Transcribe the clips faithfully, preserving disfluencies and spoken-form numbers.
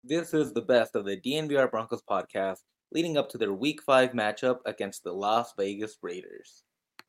This is the best of the D N V R Broncos podcast leading up to their Week five matchup against the Las Vegas Raiders.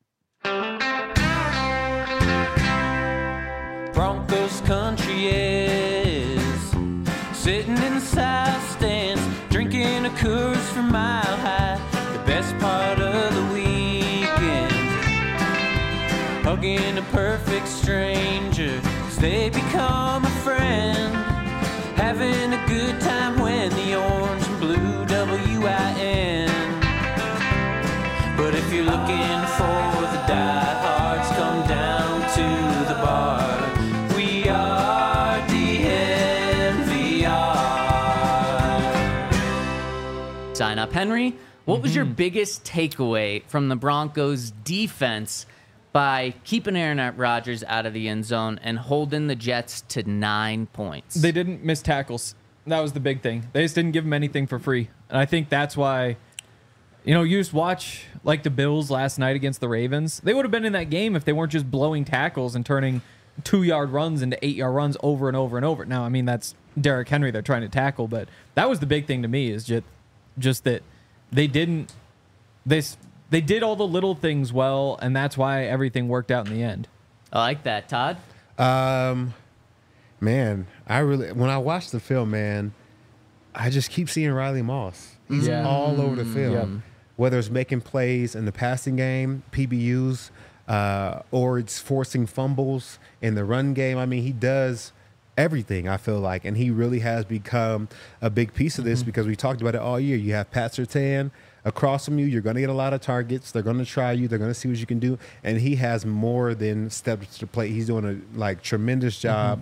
Broncos country is sitting in the south stands, drinking a Coors from Mile High, the best part of the weekend. Hugging a perfect stranger, 'cause they become a friend. Having a good time when the orange and blue W I N. But if you're looking for the diehards, come down to the bar. We are D N V R. Sign up. Henry, what Mm-hmm. was your biggest takeaway from the Broncos defense by keeping Aaron Rodgers out of the end zone and holding the Jets to nine points? They didn't miss tackles. That was the big thing. They just didn't give him anything for free. And I think that's why, you know, you just watch like the Bills last night against the Ravens. They would have been in that game if they weren't just blowing tackles and turning two-yard runs into eight-yard runs over and over and over. Now, I mean, that's Derrick Henry they're trying to tackle, but that was the big thing to me is just, just that they didn't they, they did all the little things well, and that's why everything worked out in the end. I like that. Todd? Um, man, I really when I watch the film, man, I just keep seeing Riley Moss. He's Yeah. all over the field, Yep. whether it's making plays in the passing game, P B Us, uh, or it's forcing fumbles in the run game. I mean, he does everything, I feel like, and he really has become a big piece of this because we talked about it all year. You have Pat Surtain across from you. You're going to get a lot of targets. They're going to try you. They're going to see what you can do, and he has more than steps to play. He's doing a like tremendous job.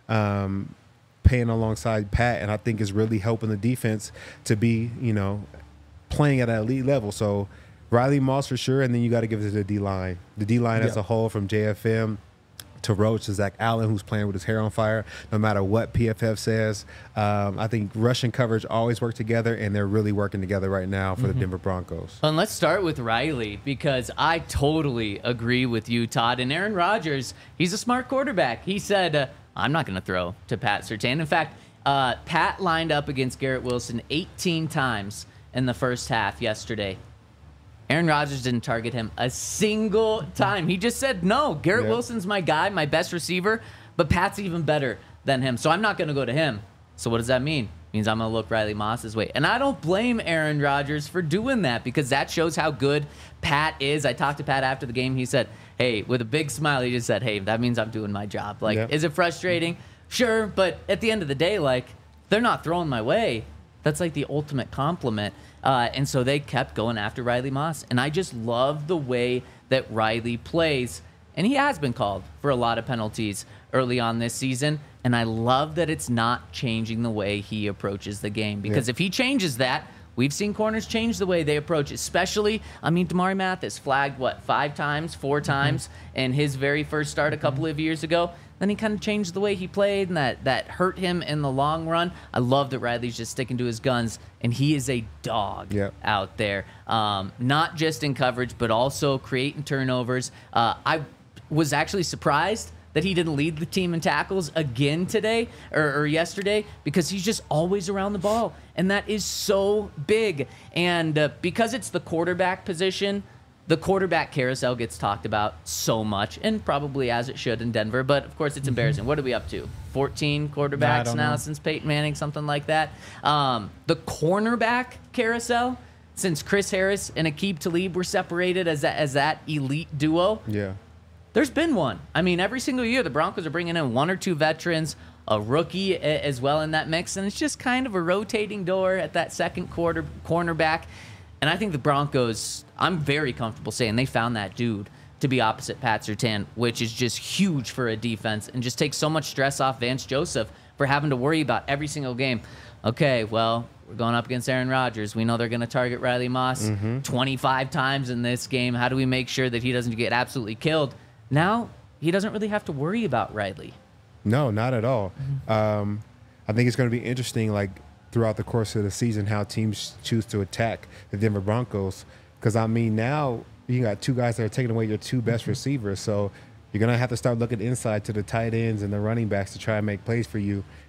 Um, paying alongside Pat, and I think is really helping the defense to be, you know, playing at an elite level. So Riley Moss for sure, and then you got to give it to the D-line. The D-line as Yeah. a whole, from J F M to Roach to Zach Allen, who's playing with his hair on fire, no matter what P F F says. Um, I think rush and coverage always work together, and they're really working together right now for the Denver Broncos. And let's start with Riley, because I totally agree with you, Todd. And Aaron Rodgers, he's a smart quarterback. He said, uh, I'm not going to throw to Pat Surtain. In fact, uh, Pat lined up against Garrett Wilson eighteen times in the first half yesterday. Aaron Rodgers didn't target him a single time. He just said, no, Garrett Yeah. Wilson's my guy, my best receiver, but Pat's even better than him, so I'm not going to go to him. So what does that mean? It means I'm going to look Riley Moss's way. And I don't blame Aaron Rodgers for doing that, because that shows how good Pat is. I talked to Pat after the game. He said, hey, with a big smile, he just said, hey, that means I'm doing my job. Like, Yeah. is it frustrating? Sure, but at the end of the day, like, they're not throwing my way. That's like the ultimate compliment. Uh, and so they kept going after Riley Moss. And I just love the way that Riley plays. And he has been called for a lot of penalties early on this season. And I love that it's not changing the way he approaches the game. Because Yeah. if he changes that, we've seen corners change the way they approach, especially, I mean, Damari Mathis flagged, what, five times, four times in his very first start a couple of years ago. Then he kind of changed the way he played, and that, that hurt him in the long run. I love that Riley's just sticking to his guns, and he is a dog Yep. out there. Um, not just in coverage, but also creating turnovers. Uh, I was actually surprised that he didn't lead the team in tackles again today or, or yesterday, because he's just always around the ball, and that is so big. And uh, because it's the quarterback position, the quarterback carousel gets talked about so much, and probably as it should in Denver, but of course it's embarrassing. What are we up to? fourteen I quarterbacks don't now know. since Peyton Manning, something like that. Um, the cornerback carousel, since Chris Harris and Aqib Talib were separated as that, as that elite duo, Yeah. there's been one. I mean, every single year the Broncos are bringing in one or two veterans, a rookie a- as well in that mix, and it's just kind of a rotating door at that second quarter cornerback. And I think the Broncos, I'm very comfortable saying they found that dude to be opposite Pat Surtain, which is just huge for a defense and just takes so much stress off Vance Joseph for having to worry about every single game. Okay, well, we're going up against Aaron Rodgers. We know they're going to target Riley Moss twenty-five times in this game. How do we make sure that he doesn't get absolutely killed? Now, he doesn't really have to worry about Riley. No, not at all. Um, I think it's going to be interesting, like, throughout the course of the season, how teams choose to attack the Denver Broncos. Because, I mean, now you got two guys that are taking away your two best receivers. So you're going to have to start looking inside to the tight ends and the running backs to try and make plays for you.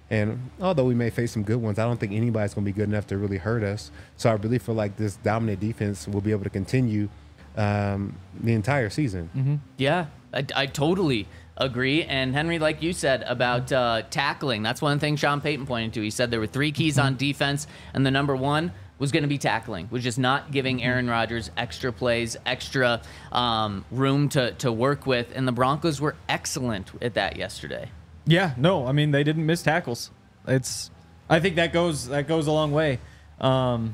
And although we may face some good ones, I don't think anybody's going to be good enough to really hurt us. So I really feel like this dominant defense will be able to continue um, the entire season. Mm-hmm. Yeah, I, I totally agree. And Henry, like you said about uh, tackling, that's one thing Sean Payton pointed to. He said there were three keys on defense, and the number one was going to be tackling, was just not giving Aaron Rodgers extra plays, extra um, room to, to work with. And the Broncos were excellent at that yesterday. Yeah, no, I mean they didn't miss tackles. It's, I think that goes that goes a long way. Um,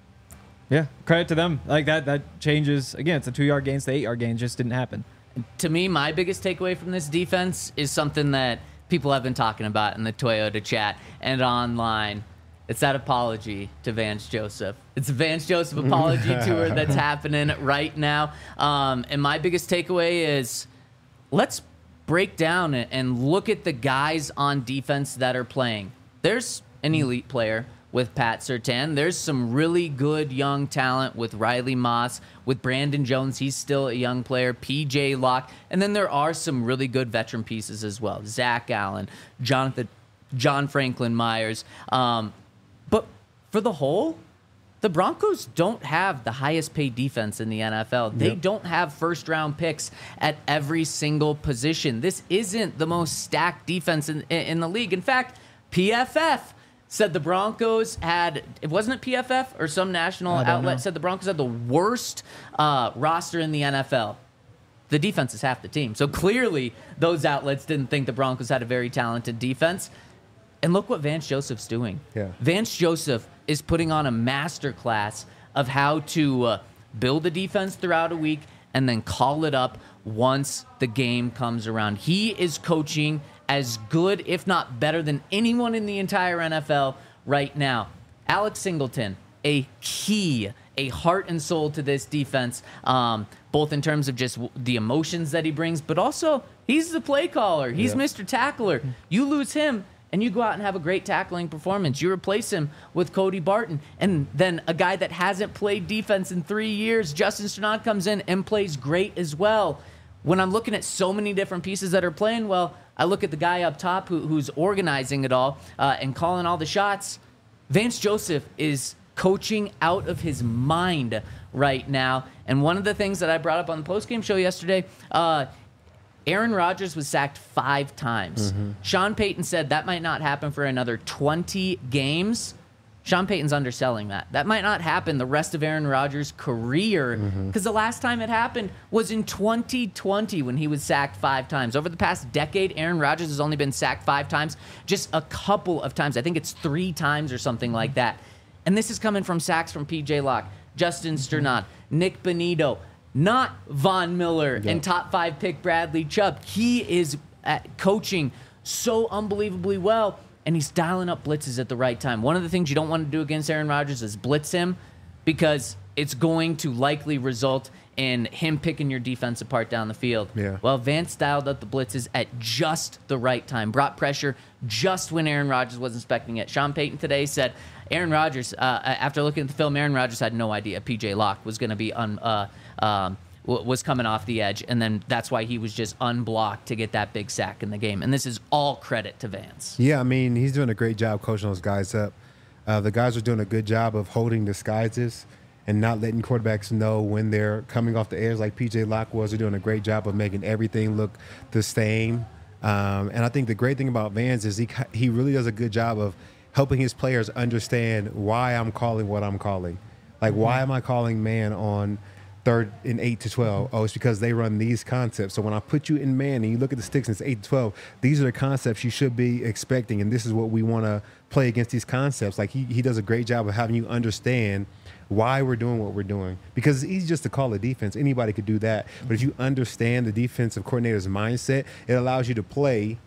yeah, credit to them. Like that that changes again. It's a two yard gain, it's the eight yard gain. Just didn't happen. To me, my biggest takeaway from this defense is something that people have been talking about in the Toyota chat and online. It's that apology to Vance Joseph. It's a Vance Joseph apology tour that's happening right now. Um, and my biggest takeaway is let's break down and look at the guys on defense that are playing. There's an elite player with Pat Surtain. There's some really good young talent with Riley Moss, with Brandon Jones. He's still a young player. P J Locke. And then there are some really good veteran pieces as well. Zach Allen, Jonathan, John Franklin Myers. Um, but for the whole, the Broncos don't have the highest paid defense in the N F L. They Yep. don't have first round picks at every single position. This isn't the most stacked defense in, in the league. In fact, P F F said the Broncos had, it wasn't it P F F or some national I don't outlet know. said the Broncos had the worst uh, roster in the N F L. The defense is half the team. So clearly those outlets didn't think the Broncos had a very talented defense. And look what Vance Joseph's doing. Yeah. Vance Joseph is putting on a master class of how to uh, build a defense throughout a week and then call it up once the game comes around. He is coaching as good, if not better, than anyone in the entire N F L right now. Alex Singleton, a key, a heart and soul to this defense, um, both in terms of just w- the emotions that he brings, but also he's the play caller. He's Yeah. Mister Tackler. You lose him, and you go out and have a great tackling performance. You replace him with Cody Barton. And then a guy that hasn't played defense in three years, Justin Strnad, comes in and plays great as well. When I'm looking at so many different pieces that are playing well, I look at the guy up top who, who's organizing it all uh, and calling all the shots. Vance Joseph is coaching out of his mind right now. And one of the things that I brought up on the postgame show yesterday, uh, Aaron Rodgers was sacked five times. Mm-hmm. Sean Payton said that might not happen for another twenty games. Sean Payton's underselling that. That might not happen the rest of Aaron Rodgers' career because Mm-hmm. the last time it happened was in twenty twenty when he was sacked five times. Over the past decade, Aaron Rodgers has only been sacked five times, just a couple of times. I think it's three times or something like that. And this is coming from sacks from P J Locke, Justin Strnad, Nick Bonito, not Von Miller Yeah. and top five pick Bradley Chubb. He is at coaching so unbelievably well, and he's dialing up blitzes at the right time. One of the things you don't want to do against Aaron Rodgers is blitz him because it's going to likely result in him picking your defense apart down the field. Yeah. Well, Vance dialed up the blitzes at just the right time, brought pressure just when Aaron Rodgers was expecting it. Sean Payton today said Aaron Rodgers, uh, after looking at the film, Aaron Rodgers had no idea P J Locke was going to be un, uh, um, w- was coming off the edge, and then that's why he was just unblocked to get that big sack in the game. And this is all credit to Vance. Yeah, I mean, he's doing a great job coaching those guys up. Uh, the guys are doing a good job of holding disguises and not letting quarterbacks know when they're coming off the edge like P J Locke was. They're doing a great job of making everything look the same. Um, and I think the great thing about Vance is he he really does a good job of helping his players understand why I'm calling what I'm calling. Like, why am I calling man on third and eight to twelve? Oh, it's because they run these concepts. So when I put you in man and you look at the sticks and it's eight to twelve, these are the concepts you should be expecting. And this is what we want to play against these concepts. Like, he, he does a great job of having you understand why we're doing what we're doing. Because it's easy just to call a defense. Anybody could do that. But if you understand the defensive coordinator's mindset, it allows you to play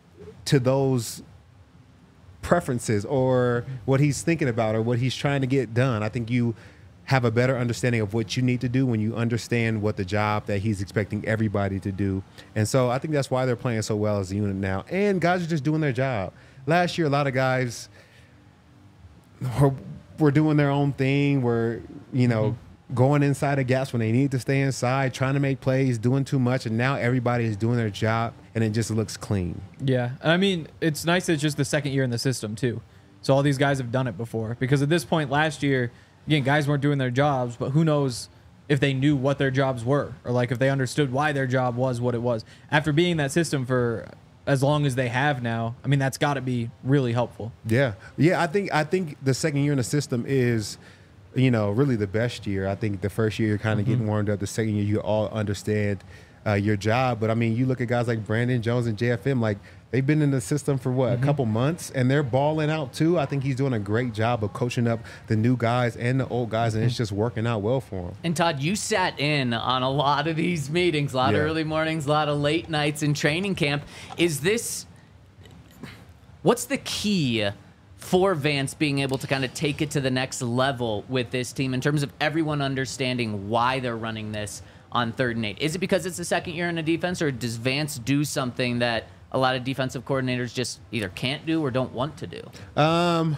to those preferences or what he's thinking about or what he's trying to get done. I think you have a better understanding of what you need to do when you understand what the job that he's expecting everybody to do. And so I think that's why they're playing so well as a unit now. And guys are just doing their job. Last year, a lot of guys were, were doing their own thing, were, you know, going inside of gaps when they need to stay inside, trying to make plays, doing too much, and now everybody is doing their job, and it just looks clean. Yeah, and I mean, it's nice that it's just the second year in the system too. So all these guys have done it before. Because at this point last year, again, guys weren't doing their jobs, but who knows if they knew what their jobs were, or like if they understood why their job was what it was. After being in that system for as long as they have now, I mean, that's got to be really helpful. Yeah, yeah. I think I think the second year in the system is, you know, really the best year. I think the first year you're kind of mm-hmm. getting warmed up. The second year you all understand uh, your job. But I mean, you look at guys like Brandon Jones and J F M, like they've been in the system for what, mm-hmm. a couple months, and they're balling out too. I think he's doing a great job of coaching up the new guys and the old guys, and mm-hmm. it's just working out well for him. And Todd, you sat in on a lot of these meetings, a lot Yeah. of early mornings, a lot of late nights in training camp. Is this, what's the key for Vance being able to kind of take it to the next level with this team in terms of everyone understanding why they're running this on third and eight? Is it because it's the second year in a defense, or does Vance do something that a lot of defensive coordinators just either can't do or don't want to do? Um,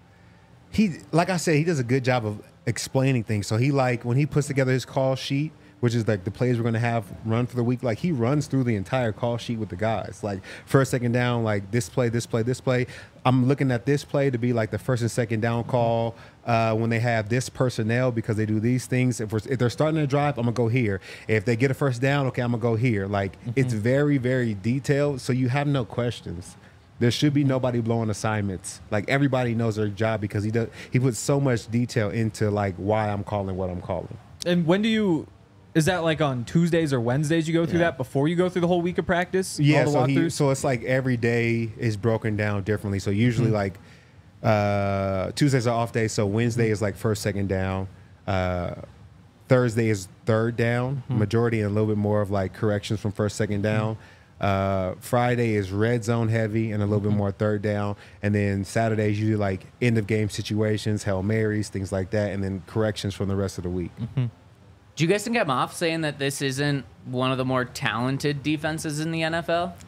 he, like I said, he does a good job of explaining things. So he like when he puts together his call sheet, which is like the plays we're going to have run for the week, like he runs through the entire call sheet with the guys. Like first, second down, like this play, this play, this play. I'm looking at this play to be like the first and second down call uh, when they have this personnel because they do these things. If, we're, if they're starting to drive, I'm going to go here. If they get a first down, okay, I'm going to go here. Like mm-hmm. it's very, very detailed, so you have no questions. There should be nobody blowing assignments. Like everybody knows their job because he does. He puts so much detail into like why I'm calling what I'm calling. And when do you... Is that like on Tuesdays or Wednesdays you go through Yeah. that before you go through the whole week of practice? Yeah, all the so, he, walkthroughs? so it's like every day is broken down differently. So usually Mm-hmm. like uh, Tuesdays are off days. So Wednesday Mm-hmm. is like first, second down. Uh, Thursday is third down, Mm-hmm. majority, and a little bit more of like corrections from first, second down. Uh, Friday is red zone heavy and a little bit more third down. And then Saturday is usually like end of game situations, Hail Marys, things like that. And then corrections from the rest of the week. Do you guys think I'm off saying that this isn't one of the more talented defenses in the N F L?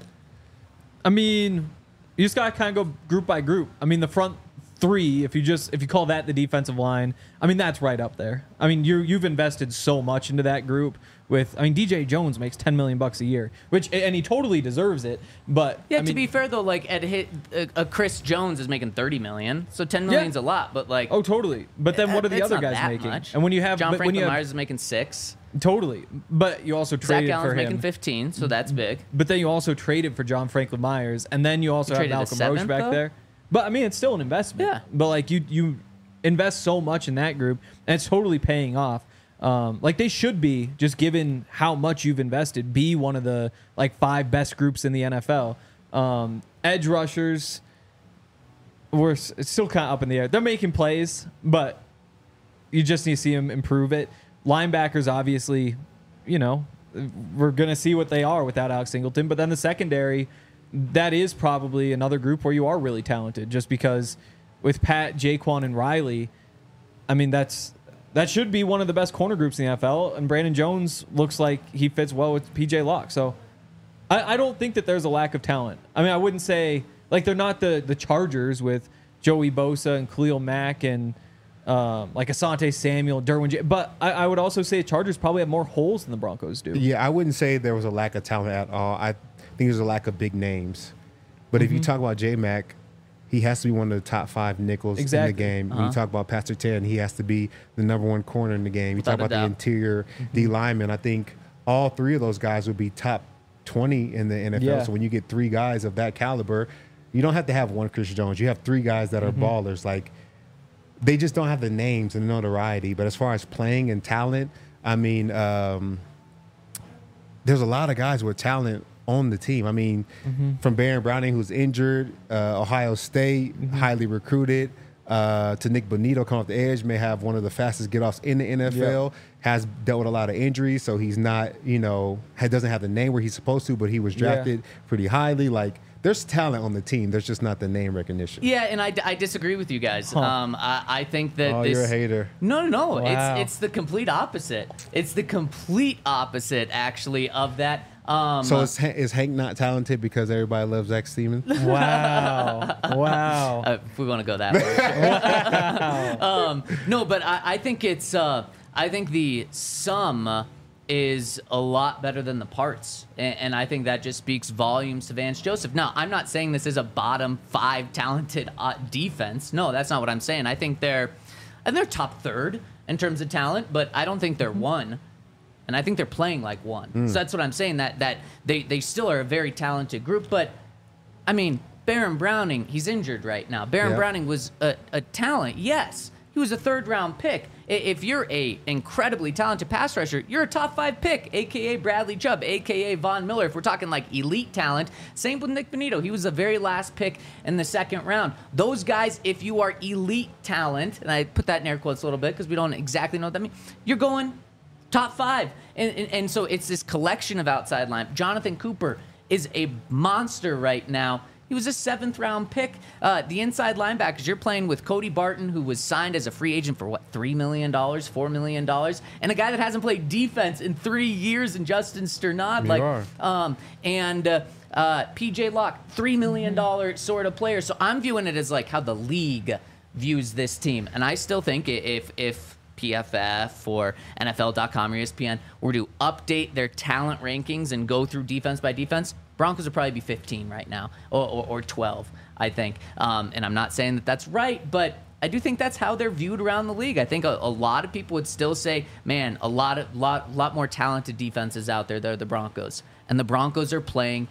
I mean, you just gotta kind of go group by group. I mean, the front three, if you just if you call that the defensive line, I mean that's right up there. I mean, you you've invested so much into that group. With I mean, D J Jones makes ten million bucks a year, which and he totally deserves it. But Yeah, I to mean, be fair though, like at hit, a, a Chris Jones is making thirty million, so ten million's Yeah. a lot. But like, oh totally. But then what are the it's other not guys that making? much. And when you have John but when Franklin you have, Myers is making six, totally, but you also Zach traded Allen's for making him. fifteen, so that's big. But then you also traded for John Franklin Myers, and then you also You have traded a Malcolm seventh, Roach back though? there. But I mean, it's still an investment. Yeah. But like you, you invest so much in that group, and it's totally paying off. Um, like they should be, just given how much you've invested, be one of the like five best groups in the N F L. Um, edge rushers, we're s- it's still kind of up in the air. They're making plays, but you just need to see them improve it. Linebackers, obviously, you know, we're going to see what they are without Alex Singleton. But then the secondary, that is probably another group where you are really talented just because with Pat, Jaquan, and Riley, I mean, that's that should be one of the best corner groups in the N F L. And Brandon Jones looks like he fits well with P J Locke. So I, I don't think that there's a lack of talent. I mean, I wouldn't say, like, they're not the, the Chargers with Joey Bosa and Khalil Mack and um, like Asante Samuel, Derwin J. But I, I would also say Chargers probably have more holes than the Broncos do. Yeah, I wouldn't say there was a lack of talent at all. I think there's a lack of big names. But if you talk about J-Mac, he has to be one of the top five nickels Exactly. in the game. When Uh-huh. you talk about Pastor Ten, he has to be the number one corner in the game. You Without talk a about the doubt. interior D lineman. I think all three of those guys would be top twenty in the N F L. Yeah. So when you get three guys of that caliber, you don't have to have one Chris Jones. You have three guys that are ballers. Like, they just don't have the names and notoriety. But as far as playing and talent, I mean, um, there's a lot of guys with talent on the team. I mean, from Baron Browning, who's injured, uh, Ohio State, highly recruited, uh, to Nick Bonito coming off the edge, may have one of the fastest get-offs in the N F L, has dealt with a lot of injuries, so he's not, you know, ha- doesn't have the name where he's supposed to, but he was Yeah. drafted pretty highly. Like, there's talent on the team. There's just not the name recognition. Yeah, and I, I disagree with you guys. Um, I, I think that Oh, this. you're a hater. No, no, no. Wow. It's it's the complete opposite. It's the complete opposite, actually, of that. Um, So is, Ha- is Hank not talented because everybody loves Zach Steeman? Wow. Wow. uh, if we want to go that way. um, no, but I, I think it's. Uh, I, I think the sum is a lot better than the parts. And, and I think that just speaks volumes to Vance Joseph. Now, I'm not saying this is a bottom five talented uh, defense. No, that's not what I'm saying. I think they're, and they're top third in terms of talent, but I don't think they're one. And I think they're playing like one. Mm. So that's what I'm saying, that that they, they still are a very talented group. But, I mean, Baron Browning, he's injured right now. Baron yeah. Browning was a, a talent, yes. He was a third-round pick. If you're a incredibly talented pass rusher, you're a top five pick, a k a. Bradley Chubb, a k a. Von Miller. If we're talking like elite talent, same with Nick Bonito. He was the very last pick in the second round. Those guys, if you are elite talent, and I put that in air quotes a little bit because we don't exactly know what that means, you're going top five. And, and, and so it's this collection of outside line. Jonathan Cooper is a monster right now. He was a seventh-round pick. Uh, the inside linebackers, you're playing with Cody Barton, who was signed as a free agent for, what, three million dollars, four million dollars? And a guy that hasn't played defense in three years in Justin Sternad. You like, are. Um, and uh, uh, P J Locke, three million dollars sort of player. So I'm viewing it as like how the league views this team. And I still think if if P F F or N F L dot com or E S P N were to update their talent rankings and go through defense by defense, Broncos would probably be fifteen right now, or, or, or twelve, I think. Um, and I'm not saying that that's right, but I do think that's how they're viewed around the league. I think a, a lot of people would still say, man, a lot of lot lot more talented defenses out there. They're the Broncos, and the Broncos are playing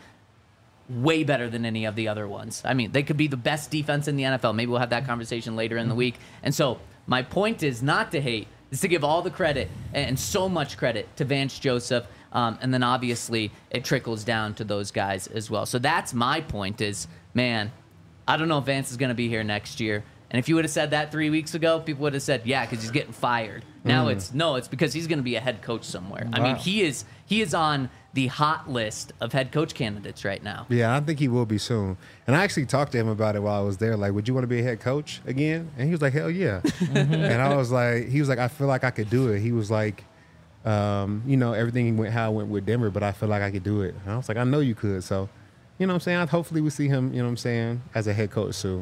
way better than any of the other ones. I mean, they could be the best defense in the N F L. Maybe we'll have that conversation later in the week. And so my point is not to hate, is to give all the credit and so much credit to Vance Joseph. Um, and then obviously it trickles down to those guys as well. So that's my point is, man, I don't know if Vance is going to be here next year. And if you would have said that three weeks ago, people would have said, yeah, because he's getting fired. Now Mm. it's, no, it's because he's going to be a head coach somewhere. I Wow. mean, he is he is on the hot list of head coach candidates right now. Yeah, I think he will be soon. And I actually talked to him about it while I was there. Like, would you want to be a head coach again? And he was like, hell yeah. And I was like, he was like, I feel like I could do it. He was like, um, you know, everything went how it went with Denver, but I feel like I could do it. And I was like, I know you could. So, you know what I'm saying? Hopefully we see him, you know what I'm saying, as a head coach soon.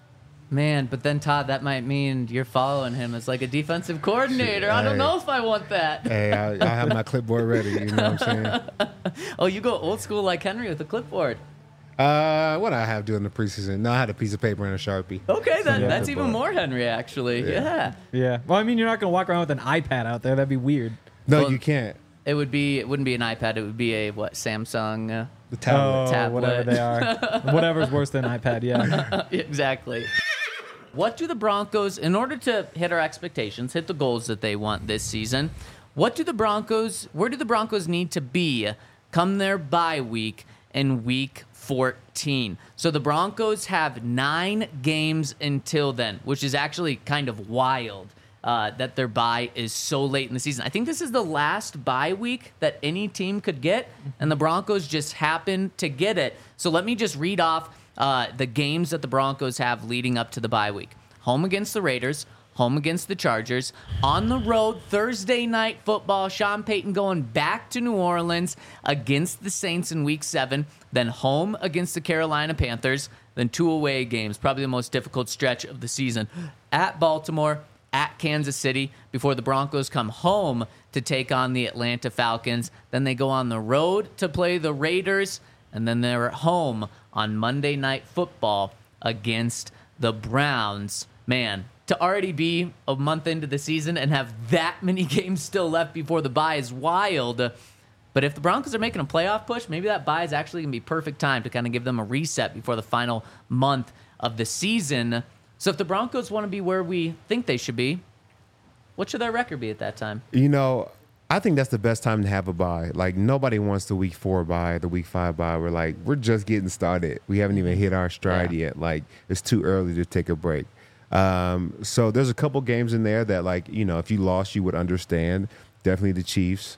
Man, but then Todd, that might mean you're following him as like a defensive coordinator. I don't Hey. know if I want that. Hey, I, I have my clipboard ready. You know what I'm saying? Oh, you go old school like Henry with a clipboard. Uh, what I have during the preseason? No, I had a piece of paper and a Sharpie. Okay, then Yeah. that's even Clipboard. more Henry, actually. Yeah. Yeah. Yeah. Well, I mean, you're not going to walk around with an iPad out there. That'd be weird. No, Well, you can't. It would be. It wouldn't be an iPad. It would be a what? Samsung. Uh, The tablet. Oh, Tablet. whatever they are. Whatever's worse than iPad, yeah. exactly. What do the Broncos, in order to hit our expectations, hit the goals that they want this season, what do the Broncos, where do the Broncos need to be come their bye week in week fourteen? So the Broncos have nine games until then, which is actually kind of wild uh, that their bye is so late in the season. I think this is the last bye week that any team could get, and the Broncos just happen to get it. So let me just read off Uh, the games that the Broncos have leading up to the bye week. Home against the Raiders, home against the Chargers, on the road, Thursday night football, Sean Payton going back to New Orleans against the Saints in week seven, then home against the Carolina Panthers, then two away games, probably the most difficult stretch of the season, at Baltimore, at Kansas City, before the Broncos come home to take on the Atlanta Falcons. Then they go on the road to play the Raiders, and then they're at home on Monday Night Football against the Browns. Man, to already be a month into the season and have that many games still left before the bye is wild. But if the Broncos are making a playoff push, maybe that bye is actually going to be perfect time to kind of give them a reset before the final month of the season. So if the Broncos want to be where we think they should be, what should their record be at that time? You know, I think that's the best time to have a bye. Like, nobody wants the week four bye, the week five bye. We're like, we're just getting started. We haven't even hit our stride Yeah. yet. Like, it's too early to take a break. Um, so there's a couple games in there that, like, you know, if you lost, you would understand. Definitely the Chiefs.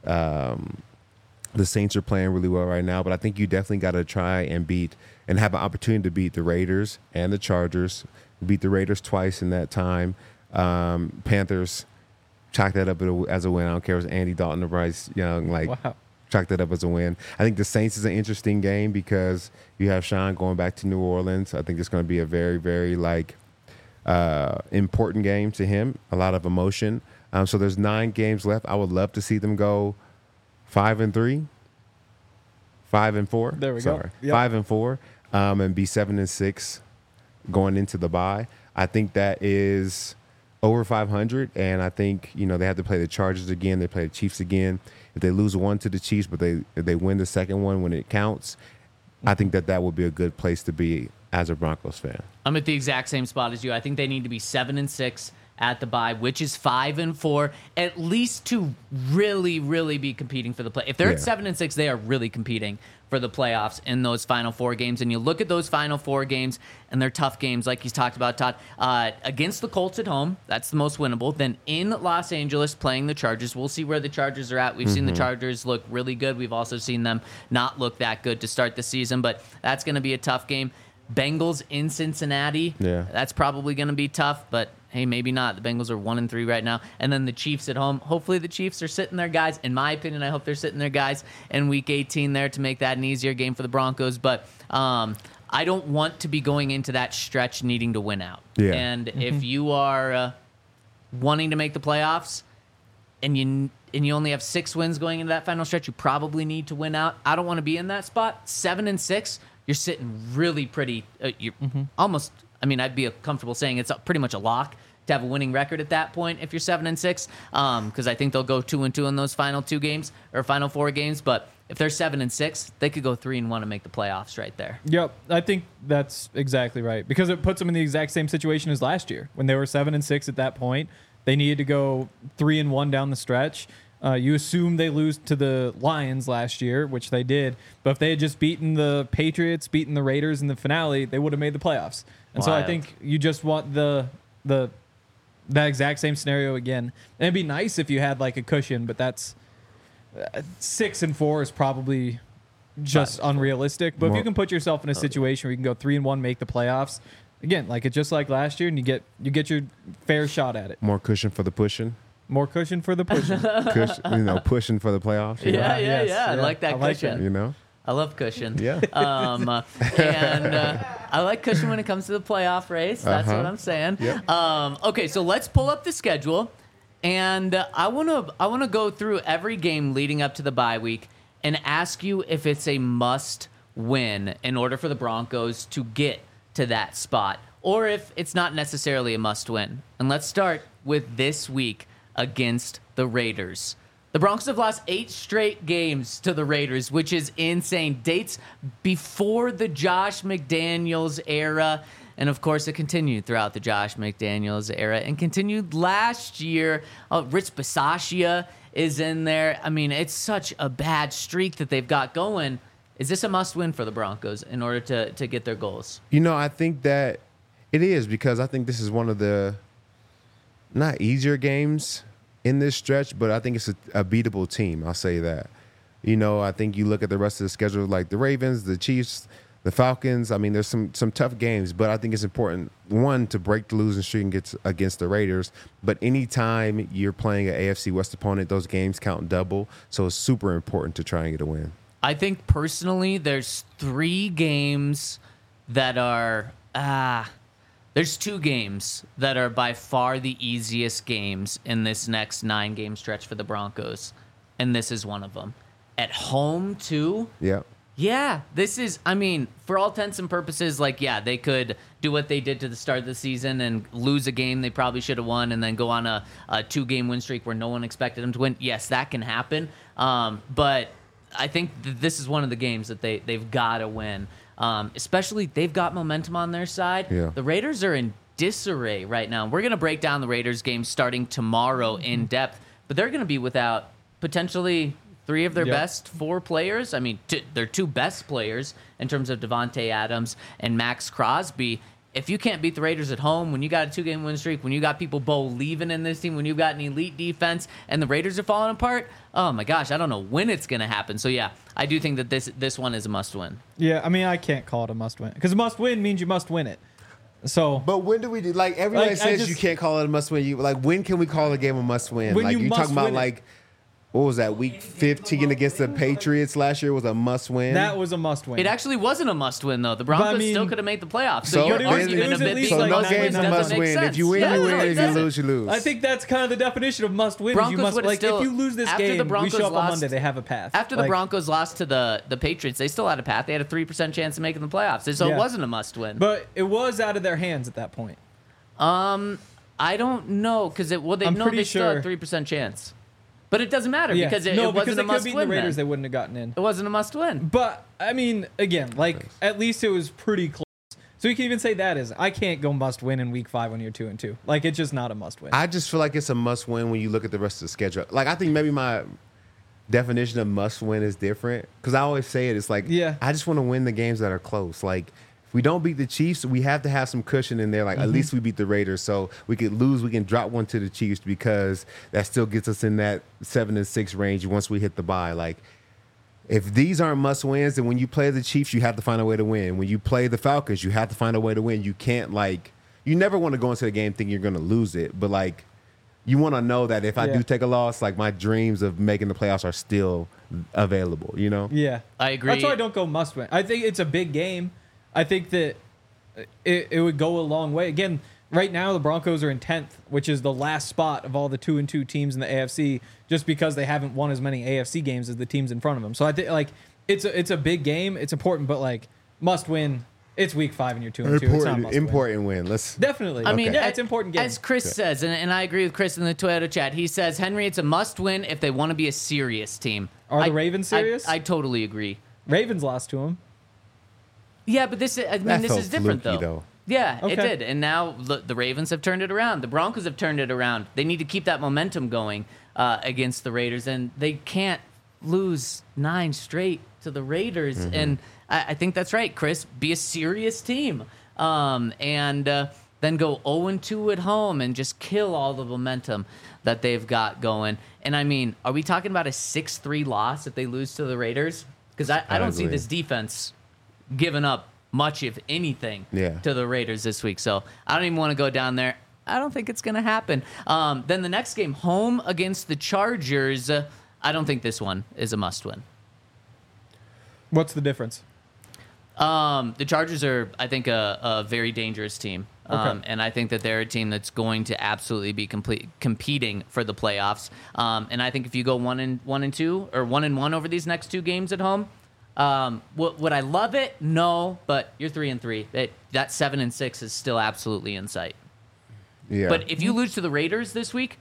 Um, the Saints are playing really well right now, but I think you definitely got to try and beat and have an opportunity to beat the Raiders and the Chargers. Beat the Raiders twice in that time. Um, Panthers, chalk that up as a win. I don't care if it's Andy Dalton or Bryce Young. Like, Wow. chalk that up as a win. I think the Saints is an interesting game because you have Sean going back to New Orleans. I think it's going to be a very, very, like, uh, important game to him, a lot of emotion. Um, so there's nine games left. I would love to see them go five and three, five and four. There we Sorry. go. Yep. Five and four, um, and be seven and six going into the bye. I think that is over five hundred, and I think, you know, they have to play the Chargers again. They play the Chiefs again. If they lose one to the Chiefs, but they if they win the second one when it counts, I think that that would be a good place to be as a Broncos fan. I'm at the exact same spot as you. I think they need to be seven and six at the bye, which is five and four, at least to really, really be competing for the play. If they're Yeah. at seven and six, they are really competing for the playoffs in those final four games. And you look at those final four games, and they're tough games, like he's talked about, Todd. Uh, against the Colts at home, that's the most winnable. Then in Los Angeles, playing the Chargers. We'll see where the Chargers are at. We've mm-hmm. seen the Chargers look really good. We've also seen them not look that good to start the season, but that's going to be a tough game. Bengals in Cincinnati. Yeah. That's probably going to be tough, but hey, maybe not. The Bengals are one and three right now. And then the Chiefs at home. Hopefully the Chiefs are sitting their guys. In my opinion, I hope they're sitting their guys in week eighteen there to make that an easier game for the Broncos. But um, I don't want to be going into that stretch needing to win out. Yeah. And mm-hmm. if you are uh, wanting to make the playoffs and you and you only have six wins going into that final stretch, you probably need to win out. I don't want to be in that spot. Seven and six, you're sitting really pretty. Uh, you're mm-hmm. almost. I mean, I'd be comfortable saying it's pretty much a lock to have a winning record at that point if you're seven and six, um, because I think they'll go two and two in those final two games or final four games. But if they're seven and six, they could go three and one and make the playoffs right there. Yep, I think that's exactly right, because it puts them in the exact same situation as last year when they were seven and six at that point. They needed to go three and one down the stretch. Uh, you assume they lose to the Lions last year, which they did. But if they had just beaten the Patriots, beaten the Raiders in the finale, they would have made the playoffs. And Wild. so I think you just want the the that exact same scenario again. And it'd be nice if you had like a cushion, but that's uh, six and four is probably just Five. unrealistic. But More- if you can put yourself in a situation where you can go three and one, make the playoffs, again, like it's just like last year, and you get you get your fair shot at it. More cushion for the pushing. More cushion for the pushing. Cush, you know, pushing for the playoffs. You Yeah, know? yeah, yes, yeah. I yeah. like that I like cushion. You know? I love cushion. Yeah. Um, uh, and uh, I like cushion when it comes to the playoff race. That's Uh-huh. what I'm saying. Yep. Um, okay, so let's pull up the schedule, and uh, I want to I want to go through every game leading up to the bye week and ask you if it's a must win in order for the Broncos to get to that spot, or if it's not necessarily a must win. And let's start with this week against the Raiders. The Broncos have lost eight straight games to the Raiders, which is insane. Dates before the Josh McDaniels era. And, of course, it continued throughout the Josh McDaniels era and continued last year. Oh, Rich Bisaccia is in there. I mean, it's such a bad streak that they've got going. Is this a must-win for the Broncos in order to, to get their goals? You know, I think that it is, because I think this is one of the not easier games in this stretch, but I think it's a, a beatable team. I'll say that. You know, I think you look at the rest of the schedule, like the Ravens, the Chiefs, the Falcons. I mean, there's some some tough games, but I think it's important, one, to break the losing streak and get against the Raiders. But anytime you're playing an A F C West opponent, those games count double. So it's super important to try and get a win. I think personally, there's three games that are ah. There's two games that are by far the easiest games in this next nine-game stretch for the Broncos, and this is one of them. At home, too? Yeah. Yeah, this is, I mean, for all intents and purposes, like, yeah, they could do what they did to the start of the season and lose a game they probably should have won and then go on a, a two-game win streak where no one expected them to win. Yes, that can happen, um, but I think th- this is one of the games that they, they've got to win. Um, especially, they've got momentum on their side. Yeah. The Raiders are in disarray right now. We're going to break down the Raiders game starting tomorrow in depth, but they're going to be without potentially three of their Yep. best four players. I mean, t- their two best players in terms of Devontae Adams and Max Crosby. If you can't beat the Raiders at home, when you got a two-game win streak, when you got people believing in this team, when you've got an elite defense, and the Raiders are falling apart, oh my gosh, I don't know when it's going to happen. So yeah, I do think that this this one is a must-win. Yeah, I mean, I can't call it a must win, because a must win means you must win it. So But when do we do, like, everybody Like, I says just- you can't call it a must win. You like, when can we call a game a must win? When Like, you you must talking about win it. like what was that, week fifteen against the Patriots last year was a must win. That was a must win. It actually wasn't a must-win, though. The Broncos But, I mean- still could have made the playoffs. So, So your it was- argument it was of at it least being so a no like game's must-win a doesn't must make win. sense. If you win, Yeah, you no, win. it If you doesn't. lose, you lose. I think that's kind of the definition of must win. Broncos you must would've like still- if you lose this after the game, we Broncos show up on lost- Monday. They have a path. After the Like, Broncos lost to the, the Patriots, they still had a path. They had a three percent chance of making the playoffs. So Yeah. it wasn't a must-win. but it was out of their hands at that point. Um, I don't know because it well they I'm know pretty they still had sure- three percent chance, but it doesn't matter Yeah. because it, no, it because wasn't they a could have beaten the must-win. Raiders, they Then. wouldn't have gotten in. It wasn't a must-win. But I mean, again, like at least it was pretty close. So you can even say that is I can't go must win in week five when you're two and two. Like it's just not a must win. I just feel like it's a must win when you look at the rest of the schedule. Like I think maybe my definition of must win is different because I always say it. It's like Yeah. I just want to win the games that are close. Like if we don't beat the Chiefs, we have to have some cushion in there. Like Mm-hmm. at least we beat the Raiders, so we could lose. We can drop one to the Chiefs because that still gets us in that seven and six range once we hit the bye. Like. If these aren't must wins, then when you play the Chiefs, you have to find a way to win. When you play the Falcons, you have to find a way to win. You can't like you never want to go into the game thinking you're going to lose it, but like you want to know that if I Yeah. do take a loss, like my dreams of making the playoffs are still available. You know? yeah, I agree. That's why I don't go must win. I think it's a big game. I think that it, it would go a long way. Again, right now the Broncos are in tenth, which is the last spot of all the two and two teams in the A F C, just because they haven't won as many A F C games as the teams in front of them. So I think like it's a it's a big game. It's important, but like must win. It's week five and you're two and two. It's not Important, must win. important win. Let's. Definitely. I mean, yeah, a- it's an important game. As Chris says, and, and I agree with Chris in the Twitter chat. He says, Henry, it's a must-win if they want to be a serious team. Are the I- Ravens I- serious? I, totally agree. Ravens lost to them. Yeah, but this is, I mean, That this felt is different fluky, though. though. Yeah, it Okay. did. And now look, the Ravens have turned it around. The Broncos have turned it around. They need to keep that momentum going uh, against the Raiders, and they can't lose nine straight to the Raiders. Mm-hmm. And I, I think that's right, Chris. Be a serious team, um, and uh, then go zero and two at home and just kill all the momentum that they've got going. And I mean, are we talking about a six three loss if they lose to the Raiders? Because I, I don't see Ugly. this defense giving up much, if anything, Yeah. to the Raiders this week. So I don't even want to go down there. I don't think it's going to happen. Um, then the next game, home against the Chargers. Uh, I don't think this one is a must-win. What's the difference? Um, the Chargers are, I think, a, a very dangerous team. Um, Okay. and I think that they're a team that's going to absolutely be complete, competing for the playoffs. Um, and I think if you go one and one and two or one and one over these next two games at home, um, would, would I love it? No, but you're three and three. It, that seven and six is still absolutely in sight. Yeah. But if you lose to the Raiders this week,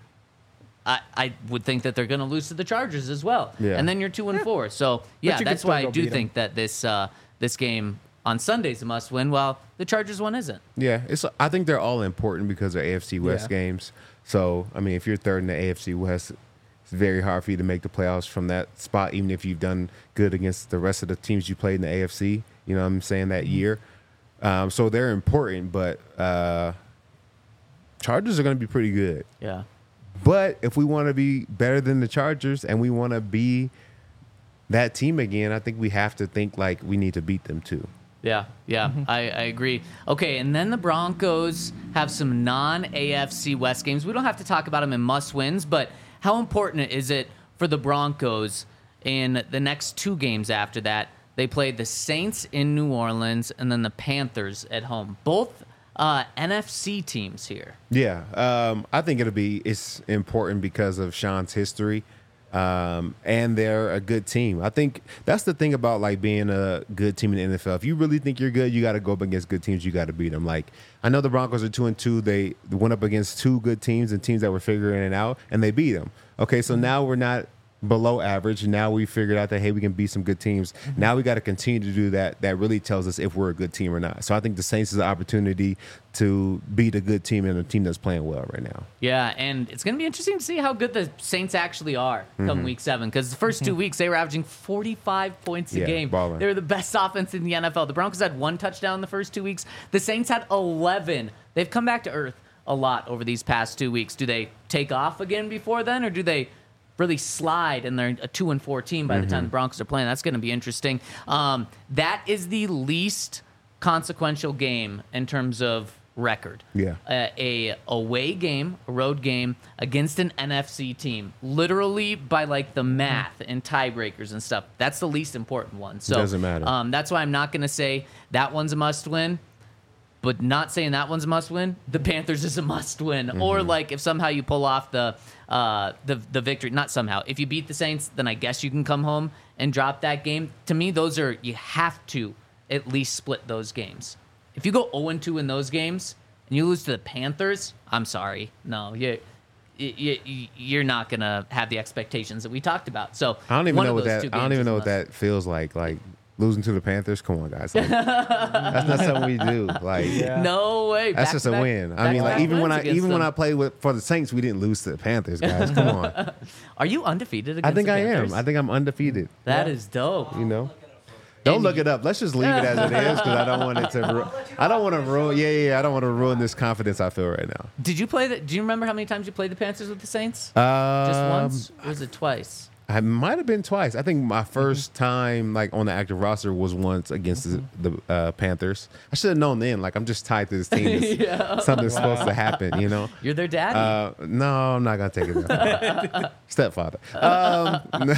I, I would think that they're going to lose to the Chargers as well. Yeah. And then you're two and four. So yeah, you could that's still why I go do beat 'em. think that this uh, this game on Sunday's a must win. While the Chargers one isn't. Yeah, it's. I think they're all important because they're A F C West Yeah. games. So I mean, if you're third in the A F C West, it's very hard for you to make the playoffs from that spot, even if you've done good against the rest of the teams you played in the A F C. You know what I'm saying, that Mm-hmm. year. Um, so they're important, but uh, Chargers are going to be pretty good. Yeah. But if we want to be better than the Chargers and we want to be that team again, I think we have to think like we need to beat them too. Yeah, yeah, I, I agree. Okay, and then the Broncos have some non-A F C West games. We don't have to talk about them in must-wins, but how important is it for the Broncos in the next two games after that? They played the Saints in New Orleans and then the Panthers at home. Both uh, N F C teams here. Yeah, um, I think it'll be it's important because of Sean's history, um, and they're a good team. I think that's the thing about like being a good team in the N F L. If you really think you're good, you got to go up against good teams. You got to beat them. Like I know the Broncos are two and two. They went up against two good teams and teams that were figuring it out, and they beat them. Okay, so now we're not below average. Now we figured out that, hey, we can beat some good teams. Now we got to continue to do that. That really tells us if we're a good team or not. So I think the Saints is an opportunity to beat a good team and a team that's playing well right now. Yeah, and it's going to be interesting to see how good the Saints actually are come week seven. Because the first two weeks, they were averaging forty-five points a Yeah, game. balling. They were the best offense in the N F L. The Broncos had one touchdown the first two weeks. The Saints had eleven. They've come back to earth a lot over these past two weeks. Do they take off again before then, or do they really slide and they're a two and four team by the time the Broncos are playing? That's going to be interesting. Um, that is the least consequential game in terms of record. Yeah. Uh, a away game, a road game against an N F C team, literally by like the math and tiebreakers and stuff. That's the least important one. So Doesn't matter. Um, that's why I'm not going to say that one's a must win. But not saying that one's a must win. The Panthers is a must win. Mm-hmm. Or like if somehow you pull off the uh, the the victory, not somehow. If you beat the Saints, then I guess you can come home and drop that game. To me, those are you have to at least split those games. If you go oh and two in those games and you lose to the Panthers, I'm sorry, no, you. You, you, you're not gonna have the expectations that we talked about. So I don't even one know of what those that. two I don't games even is know a what must. that feels like. Like losing to the Panthers. Come on, guys. Like, that's not something we do. Like No way. that's just a Back-to-back- win. I mean, like back-to-back even when wins I against even when them. I played with for the Saints, we didn't lose to the Panthers, guys. Come on. Are you undefeated I against think the I Panthers? am. I think I'm undefeated. That is dope. You know. Don't And look you- it up. Let's just leave it as it is because I don't want it to. Ru- I don't want to ruin. Yeah, yeah. yeah, I don't want to ruin this confidence I feel right now. Did you play the? Do you remember how many times you played the Panthers with the Saints? Um, Just once, or was it twice? I might have been twice. I think my 1st time like on the active roster was once against the, the uh, Panthers. I should have known then. Like I'm just tied to this team. It's- Yeah. Something's supposed to happen. You know. You're their daddy. Uh, no, I'm not gonna take it that far. Stepfather. Um,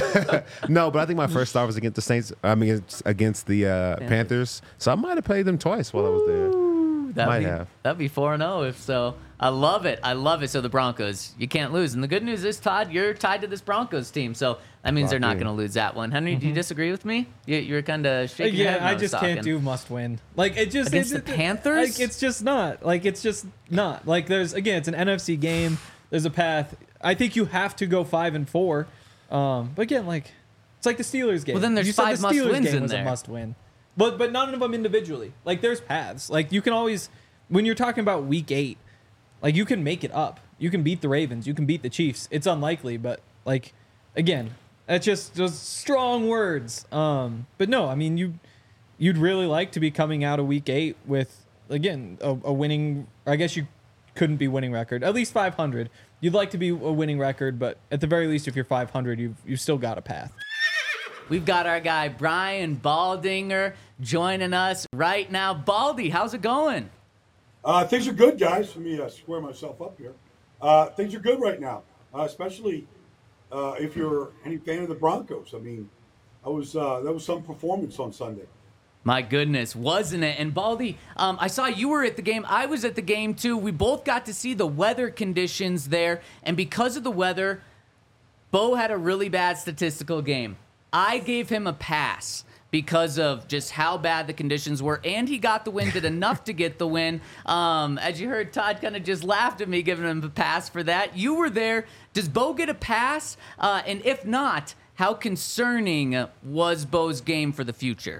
no, but I think my first start was against the Saints. I mean, it's against the uh, Panthers. So I might have played them twice while I was there. that'd might be, have. That'd be four and zero if so. I love it. I love it. So the Broncos, you can't lose. And the good news is, Todd, you're tied to this Broncos team, so that means they're not Locked in. going to lose that one. Henry, do you disagree with me? You, you're kind of shaking your Yeah, head. when I was just talking. can't do must win. Like it just Against it- the it- Panthers? Like it's just not. Like it's just not. Like there's again, it's an N F C game. There's a path. I think you have to go five and four. Um, but again, like it's like the Steelers game. Well, then there's you said five the must Steelers wins game in was there. a must win. But but none of them individually. Like there's paths. Like you can always when you're talking about week eight, like you can make it up. You can beat the Ravens. You can beat the Chiefs. It's unlikely, but like again, that's just just strong words. Um, but no, I mean you you'd really like to be coming out of week eight with again a, a winning. I guess you couldn't be winning record. At least five hundred. You'd like to be a winning record, but at the very least, if you're five hundred, you've you've still got a path. We've got our guy Brian Baldinger joining us right now. Baldy, how's it going? Uh, things are good, guys. Let me uh, square myself up here. Uh, things are good right now, uh, especially uh, if you're any fan of the Broncos. I mean, that was uh, that was some performance on Sunday. My goodness, wasn't it? And Baldy, um, I saw you were at the game. I was at the game too. We both got to see the weather conditions there. And because of the weather, Bo had a really bad statistical game. I gave him a pass because of just how bad the conditions were. And he got the win, did enough to get the win. Um, as you heard, Todd kind of just laughed at me giving him a pass for that. You were there. Does Bo get a pass? Uh, and if not, how concerning was Bo's game for the future?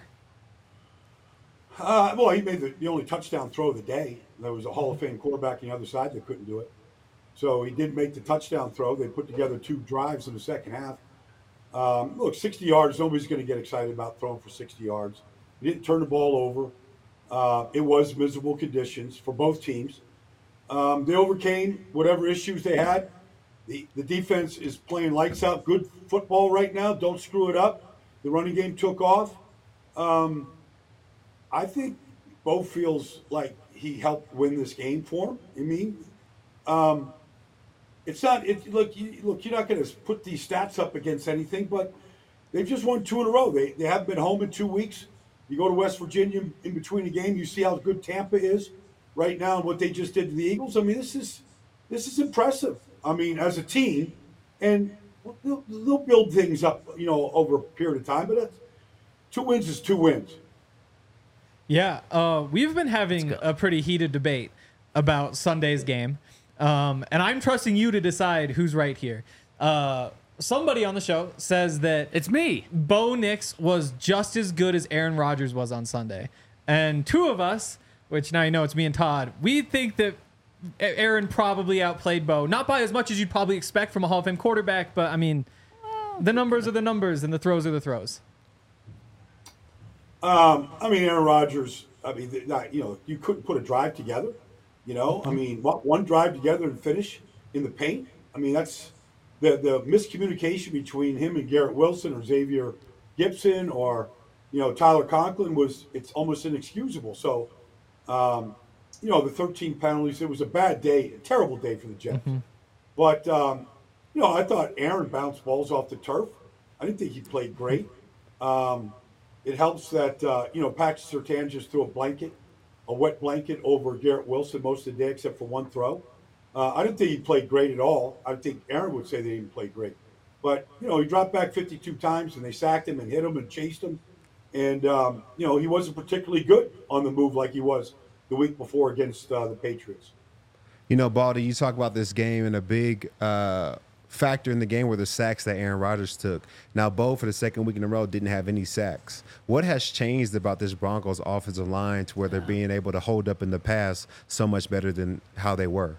Uh, well, he made the, the only touchdown throw of the day. There was a Hall of Fame quarterback on the other side that couldn't do it. So he did make the touchdown throw. They put together two drives in the second half. Um, look, sixty yards, nobody's going to get excited about throwing for sixty yards. He didn't turn the ball over. Uh, it was miserable conditions for both teams. Um, they overcame whatever issues they had. The, the defense is playing lights out, good football right now. Don't screw it up. The running game took off. Um, I think Bo feels like he helped win this game for him. I mean, um, it's not. It, look, you, look, you're not going to put these stats up against anything, but they've just won two in a row. They they haven't been home in two weeks. You go to West Virginia in between the game, you see how good Tampa is right now and what they just did to the Eagles. I mean, this is this is impressive. I mean, as a team, and they'll, they'll build things up, you know, over a period of time. But that's, two wins is two wins. Yeah, uh, we've been having a pretty heated debate about Sunday's game, um, and I'm trusting you to decide who's right here. Uh, somebody on the show says that It's me. Bo Nix was just as good as Aaron Rodgers was on Sunday, and two of us, which now you know it's me and Todd, we think that Aaron probably outplayed Bo, not by as much as you'd probably expect from a Hall of Fame quarterback, but I mean, the numbers are the numbers and the throws are the throws. Um, I mean, Aaron Rodgers. I mean, th- not, you know, you couldn't put a drive together. You know, I mean, what, one drive together and finish in the paint. I mean, that's the the miscommunication between him and Garrett Wilson or Xavier Gibson or you know Tyler Conklin was it's almost inexcusable. So, um, you know, the thirteen penalties. It was a bad day, a terrible day for the Jets. Mm-hmm. But um, you know, I thought Aaron bounced balls off the turf. I didn't think he played great. Um, it helps that uh, you know Patrick Surtain just threw a blanket, a wet blanket over Garrett Wilson most of the day, except for one throw. Uh, I didn't think he played great at all. I think Aaron would say they didn't play great. But, you know, he dropped back fifty-two times, and they sacked him and hit him and chased him. And, um, you know, he wasn't particularly good on the move like he was the week before against uh, the Patriots. You know, Baldy, you talk about this game, and a big uh, factor in the game were the sacks that Aaron Rodgers took. Now, Bo, for the second week in a row, didn't have any sacks. What has changed about this Broncos offensive line to where they're being able to hold up in the pass so much better than how they were?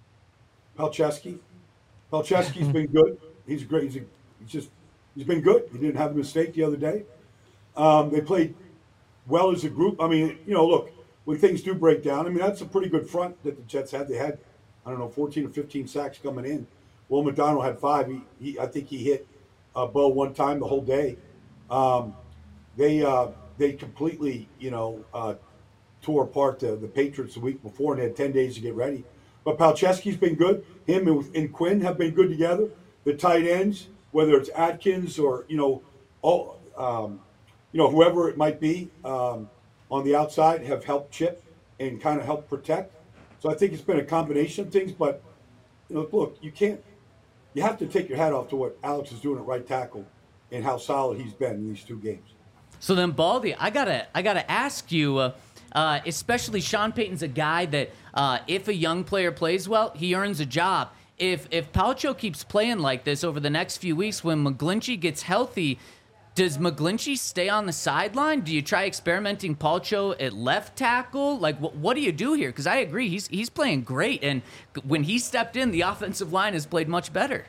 Palczewski. Palczewski's been good. He's great. He's, a, he's just he's been good. He didn't have a mistake the other day. Um, they played well as a group. I mean, you know, look, when things do break down, I mean, that's a pretty good front that the Jets had. They had, I don't know, fourteen or fifteen sacks coming in. Will McDonald had five. He, he I think he hit uh, Bo one time the whole day. Um, they uh, they completely, you know, uh, tore apart the, the Patriots the week before and had ten days to get ready. But Palczewski's been good. Him and, and Quinn have been good together. The tight ends, whether it's Atkins or, you know, all, um, you know, whoever it might be um, on the outside, have helped chip and kind of help protect. So I think it's been a combination of things. But, you know, look, you can't – you have to take your hat off to what Alex is doing at right tackle and how solid he's been in these two games. So then, Baldy, I gotta I gotta ask you, uh, uh, especially Sean Payton's a guy that uh, if a young player plays well, he earns a job. If if Palcho keeps playing like this over the next few weeks, when McGlinchey gets healthy, does McGlinchey stay on the sideline? Do you try experimenting Palcho at left tackle? Like, wh- what do you do here? Because I agree, he's he's playing great, and when he stepped in, the offensive line has played much better.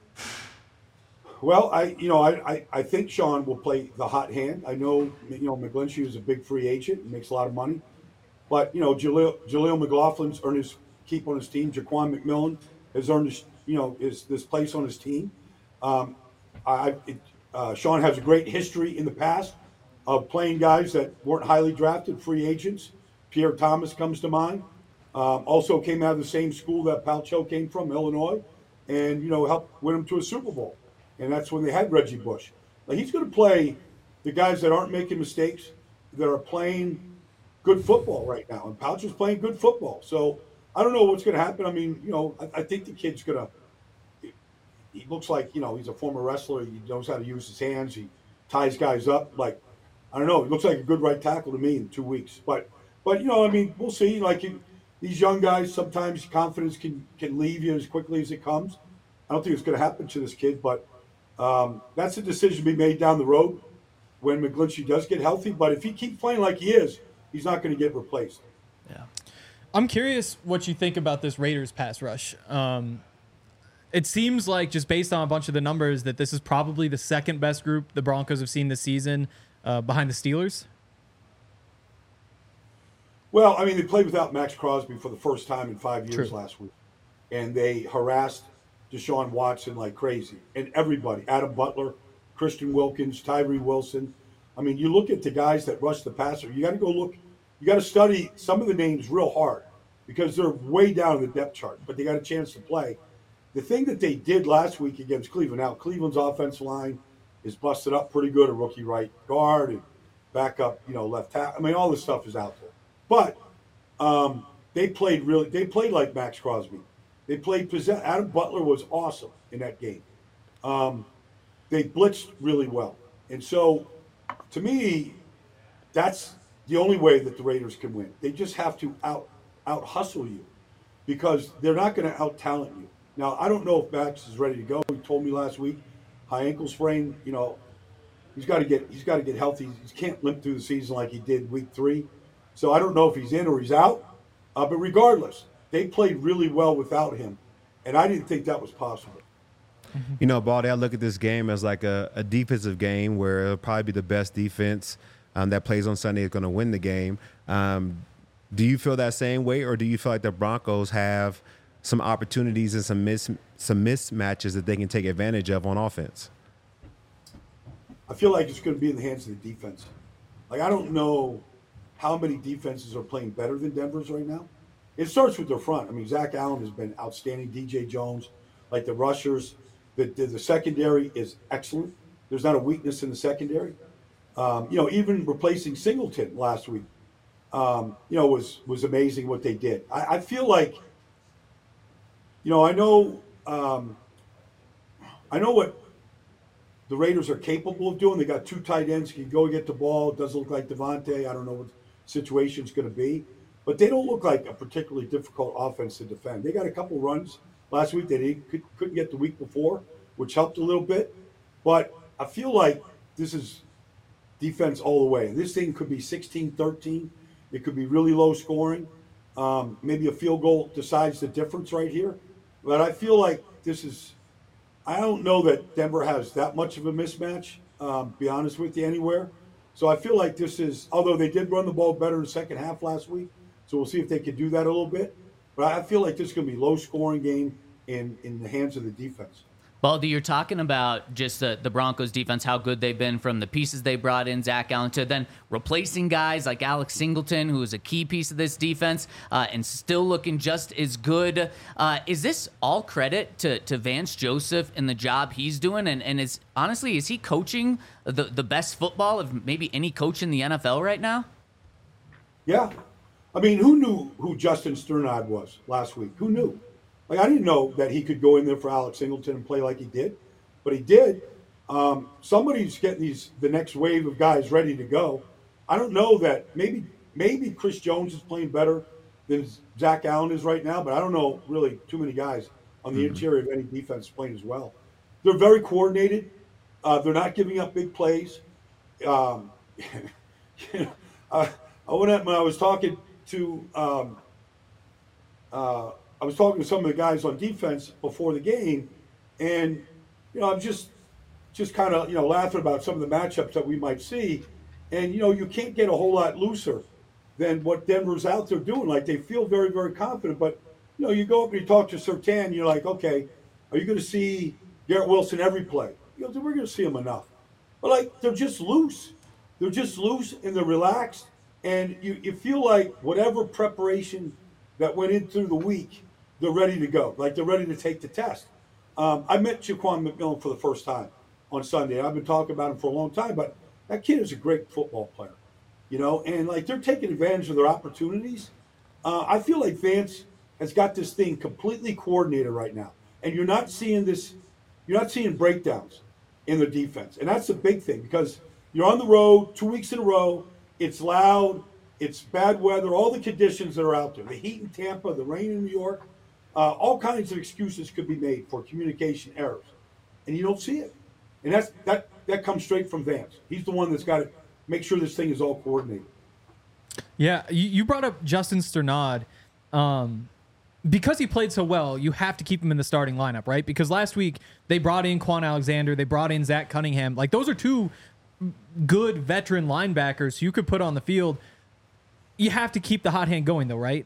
Well, I you know I, I, I think Sean will play the hot hand. I know you know McGlinchey is a big free agent, makes a lot of money, but you know Jaleel, Jaleel McLaughlin's earned his keep on his team. Jaquan McMillan has earned his, you know his this place on his team. Um, I it, uh, Sean has a great history in the past of playing guys that weren't highly drafted, free agents. Pierre Thomas comes to mind. Um, also came out of the same school that Palcho came from, Illinois, and you know helped win him to a Super Bowl. And that's when they had Reggie Bush. Now, he's going to play the guys that aren't making mistakes, that are playing good football right now. And Pouch is playing good football. So I don't know what's going to happen. I mean, you know, I, I think the kid's going to – he looks like, you know, he's a former wrestler. He knows how to use his hands. He ties guys up. Like, I don't know. He looks like a good right tackle to me in two weeks. But, but you know, I mean, we'll see. Like, you, these young guys, sometimes confidence can, can leave you as quickly as it comes. I don't think it's going to happen to this kid, but – Um, that's a decision to be made down the road when McGlinchey does get healthy. But if he keeps playing like he is, he's not going to get replaced. Yeah, I'm curious what you think about this Raiders pass rush. Um, it seems like, just based on a bunch of the numbers, that this is probably the second best group the Broncos have seen this season, uh, behind the Steelers. Well, I mean, they played without Max Crosby for the first time in five years True. last week, and they harassed Deshaun Watson like crazy, and everybody, Adam Butler, Christian Wilkins, Tyree Wilson. I mean, you look at the guys that rush the passer, you got to go look, you got to study some of the names real hard because they're way down in the depth chart, but they got a chance to play. The thing that they did last week against Cleveland, now Cleveland's offensive line is busted up pretty good, a rookie right guard and backup, you know, left tackle. I mean, all this stuff is out there. But um, they played really, they played like Max Crosby. They played possess. Adam Butler was awesome in that game. Um, they blitzed really well. And so, to me, that's the only way that the Raiders can win. They just have to out out hustle you because they're not going to out talent you. Now, I don't know if Max is ready to go. He told me last week, high ankle sprain. You know, he's got to get he's got to get healthy. He can't limp through the season like he did week three. So I don't know if he's in or he's out. Uh, but regardless, they played really well without him, and I didn't think that was possible. You know, Baldy, I look at this game as like a, a defensive game where it'll probably be the best defense um, that plays on Sunday is going to win the game. Um, do you feel that same way, or do you feel like the Broncos have some opportunities and some mis- some mismatches that they can take advantage of on offense? I feel like it's going to be in the hands of the defense. Like, I don't know how many defenses are playing better than Denver's right now. it starts with their front. I mean, Zach Allen has been outstanding. D J Jones, like the rushers, the the, the secondary is excellent. There's not a weakness in the secondary. Um, you know, even replacing Singleton last week, um, you know, was was amazing what they did. I, I feel like, you know, I know, um, I know what the Raiders are capable of doing. They got two tight ends, can go get the ball. It doesn't look like Devontae. I don't know what the situation's going to be, but they don't look like a particularly difficult offense to defend. They got a couple runs last week that they could, couldn't get the week before, which helped a little bit. But I feel like this is defense all the way. This thing could be sixteen thirteen. It could be really low scoring. Um, maybe a field goal decides the difference right here. But I feel like this is – I don't know that Denver has that much of a mismatch, um, be honest with you, anywhere. So I feel like this is – although they did run the ball better in the second half last week, so we'll see if they can do that a little bit. But I feel like this is going to be a low-scoring game in, in the hands of the defense. Baldy, you're talking about just the, the Broncos defense, how good they've been from the pieces they brought in, Zach Allen, to then replacing guys like Alex Singleton, who is a key piece of this defense, uh, and still looking just as good. Uh, is this all credit to, to Vance Joseph and the job he's doing? And, and is honestly, is he coaching the, the best football of maybe any coach in the N F L right now? Yeah. I mean, who knew who Justin Sternad was last week? Who knew? Like, I didn't know that he could go in there for Alex Singleton and play like he did, but he did. Um, somebody's getting these the next wave of guys ready to go. I don't know that maybe maybe Chris Jones is playing better than Zach Allen is right now, but I don't know really too many guys on the mm-hmm. interior of any defense playing as well. They're very coordinated. Uh, they're not giving up big plays. Um, you know, I, I went up when I was talking to. Um, uh, I was talking to some of the guys on defense before the game, and you know, I'm just just kind of you know laughing about some of the matchups that we might see, and you know, you can't get a whole lot looser than what Denver's out there doing. Like, they feel very, very confident, but you know, you go up and you talk to Surtain, you're like, okay, are you going to see Garrett Wilson every play? You know, we're going to see him enough, but like, they're just loose. They're just loose and they're relaxed, and you you feel like whatever preparation that went in through the week, they're ready to go. Like, they're ready to take the test. Um, I met Jaquan McMillan for the first time on Sunday. I've been talking about him for a long time, but that kid is a great football player, you know, and like, they're taking advantage of their opportunities. Uh, I feel like Vance has got this thing completely coordinated right now, and you're not seeing this, you're not seeing breakdowns in the defense. And that's the big thing, because you're on the road two weeks in a row. It's loud. It's bad weather, all the conditions that are out there, the heat in Tampa, the rain in New York. Uh, all kinds of excuses could be made for communication errors, and you don't see it. And that's that that comes straight from Vance. He's the one that's got to make sure this thing is all coordinated. Yeah, you, you brought up Justin Sternad. Um, because he played so well, you have to keep him in the starting lineup, right? Because last week they brought in Quan Alexander, they brought in Zach Cunningham. Like, those are two good veteran linebackers you could put on the field. You have to keep the hot hand going, though, right?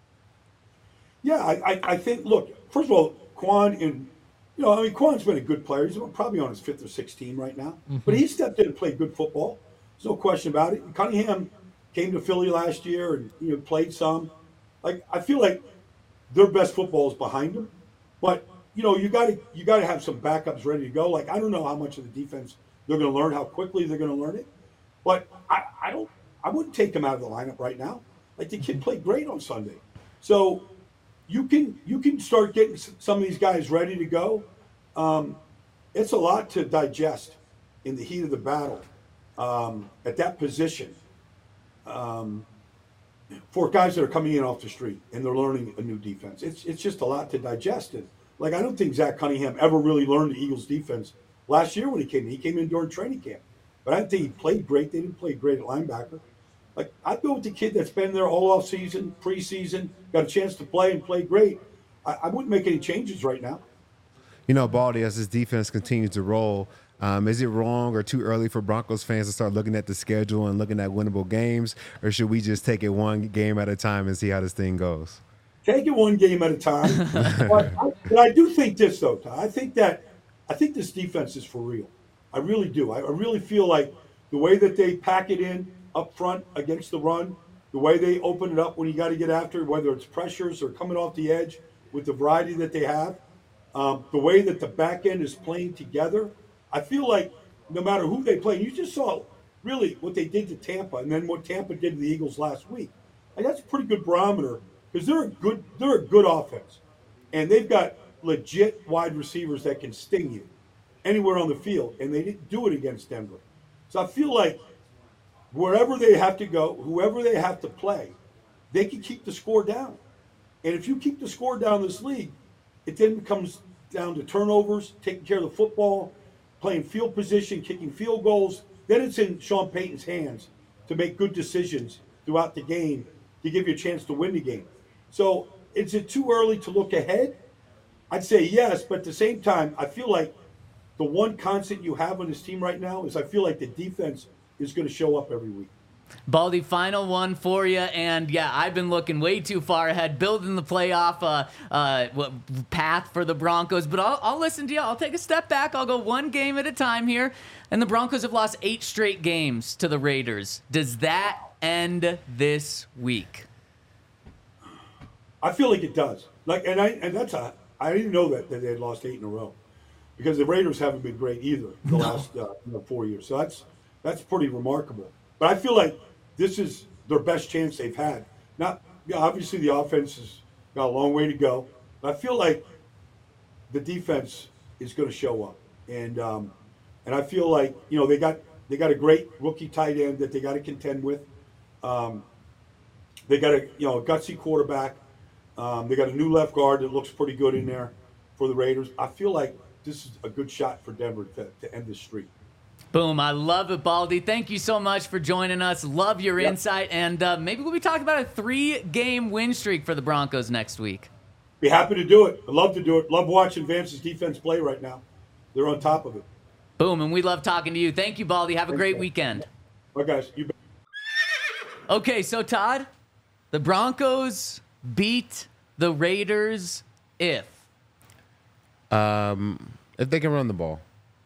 Yeah, I, I, I think, look, first of all, Quan, in, you know, I mean, Quan's been a good player. He's probably on his fifth or sixth team right now. Mm-hmm. But he stepped in and played good football. There's no question about it. Cunningham came to Philly last year and, you know, played some. Like, I feel like their best football is behind them. But, you know, you got to you got to have some backups ready to go. Like, I don't know how much of the defense they're going to learn, how quickly they're going to learn it. But I, I don't, I wouldn't take him out of the lineup right now. Like, the kid played great on Sunday. So, You can you can start getting some of these guys ready to go. Um, it's a lot to digest in the heat of the battle um, at that position um, for guys that are coming in off the street and they're learning a new defense. It's it's just a lot to digest. And like, I don't think Zach Cunningham ever really learned the Eagles defense last year when he came in. He came in during training camp, but I don't think he played great. They didn't play great at linebacker. Like, I'd go with the kid that's been there all off season, preseason, got a chance to play and play great. I, I wouldn't make any changes right now. You know, Baldy, as this defense continues to roll, um, is it wrong or too early for Broncos fans to start looking at the schedule and looking at winnable games, or should we just take it one game at a time and see how this thing goes? Take it one game at a time. but, I, but I do think this, though, Ty. I think that I think this defense is for real. I really do. I, I really feel like the way that they pack it in up front against the run, the way they open it up when you got to get after, whether it's pressures or coming off the edge with the variety that they have, um, the way that the back end is playing together, I feel like no matter who they play, you just saw really what they did to Tampa and then what Tampa did to the Eagles last week. And that's a pretty good barometer because they're a good they're a good offense. And they've got legit wide receivers that can sting you anywhere on the field, and they didn't do it against Denver. So I feel like wherever they have to go, whoever they have to play, they can keep the score down. And if you keep the score down in this league, it then comes down to turnovers, taking care of the football, playing field position, kicking field goals. Then it's in Sean Payton's hands to make good decisions throughout the game to give you a chance to win the game. So is it too early to look ahead? I'd say yes, but at the same time, I feel like the one constant you have on this team right now is I feel like the defense is going to show up every week. Baldy, final one for you. And yeah, I've been looking way too far ahead, building the playoff uh, uh, path for the Broncos. But I'll, I'll listen to you. I'll take a step back. I'll go one game at a time here. And the Broncos have lost eight straight games to the Raiders. Does that end this week? I feel like it does. Like, and I and that's a I didn't know that, that they had lost eight in a row because the Raiders haven't been great either the no. last uh, you know, four years. So that's that's pretty remarkable. But I feel like this is their best chance they've had. Not you know, obviously the offense has got a long way to go, but I feel like the defense is going to show up, and um, and I feel like you know they got they got a great rookie tight end that they got to contend with. Um, they got a you know a gutsy quarterback. Um, they got a new left guard that looks pretty good in there for the Raiders. I feel like this is a good shot for Denver to, to end this streak. Boom. I love it, Baldy. Thank you so much for joining us. Love your yep. insight. And uh, maybe we'll be talking about a three-game win streak for the Broncos next week. Be happy to do it. I'd love to do it. Love watching Vance's defense play right now. They're on top of it. Boom. And we love talking to you. Thank you, Baldy. Have a great weekend. Bye, guys. You bet. Okay, so, Todd, the Broncos beat the Raiders if? Um, if they can run the ball.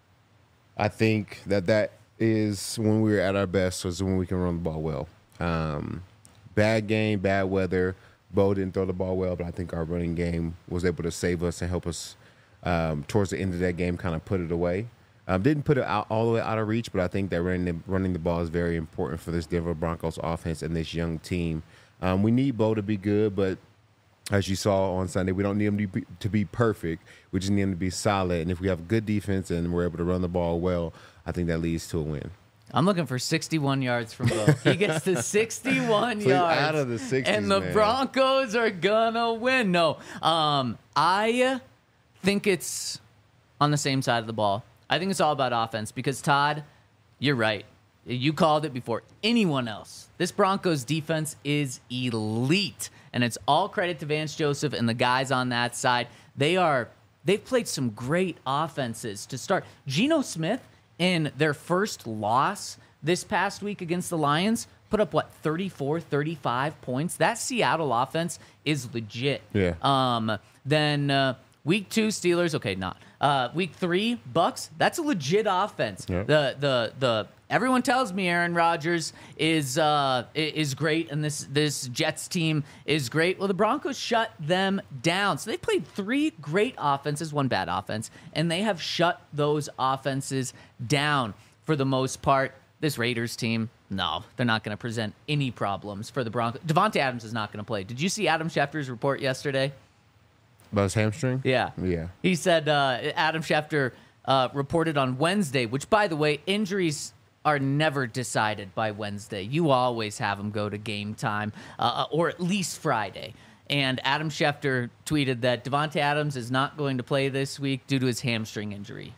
I think that that is when we were at our best was when we can run the ball well. Um, bad game, bad weather. Bo didn't throw the ball well, but I think our running game was able to save us and help us um, towards the end of that game kind of put it away. Um, didn't put it out all the way out of reach, but I think that running the, running the ball is very important for this Denver Broncos offense and this young team. Um, we need Bo to be good, but as you saw on Sunday, we don't need him to be, to be perfect. We just need him to be solid. And if we have good defense and we're able to run the ball well, I think that leads to a win. I'm looking for sixty-one yards from Bo. He gets to sixty-one Please, yards. out of the sixties, and the man. Broncos are going to win. No, um, I think it's on the same side of the ball. I think it's all about offense because, Todd, you're right. You called it before anyone else. This Broncos defense is elite, and it's all credit to Vance Joseph and the guys on that side. They are they've played some great offenses to start. Geno Smith in their first loss this past week against the Lions put up what thirty-four, thirty-five points. That Seattle offense is legit. Yeah. Um then uh, week two Steelers, okay, not. Uh, week three Bucks, that's a legit offense. Yep. The the the everyone tells me Aaron Rodgers is uh, is great and this this Jets team is great. Well, the Broncos shut them down. So they played three great offenses, one bad offense, and they have shut those offenses down for the most part. This Raiders team, no, they're not going to present any problems for the Broncos. Devontae Adams is not going to play. Did you see Adam Schefter's report yesterday? About his hamstring? Yeah. Yeah. He said uh, Adam Schefter uh, reported on Wednesday, which, by the way, injuries are never decided by Wednesday. You always have them go to game time, uh, or at least Friday. And Adam Schefter tweeted that Devontae Adams is not going to play this week due to his hamstring injury.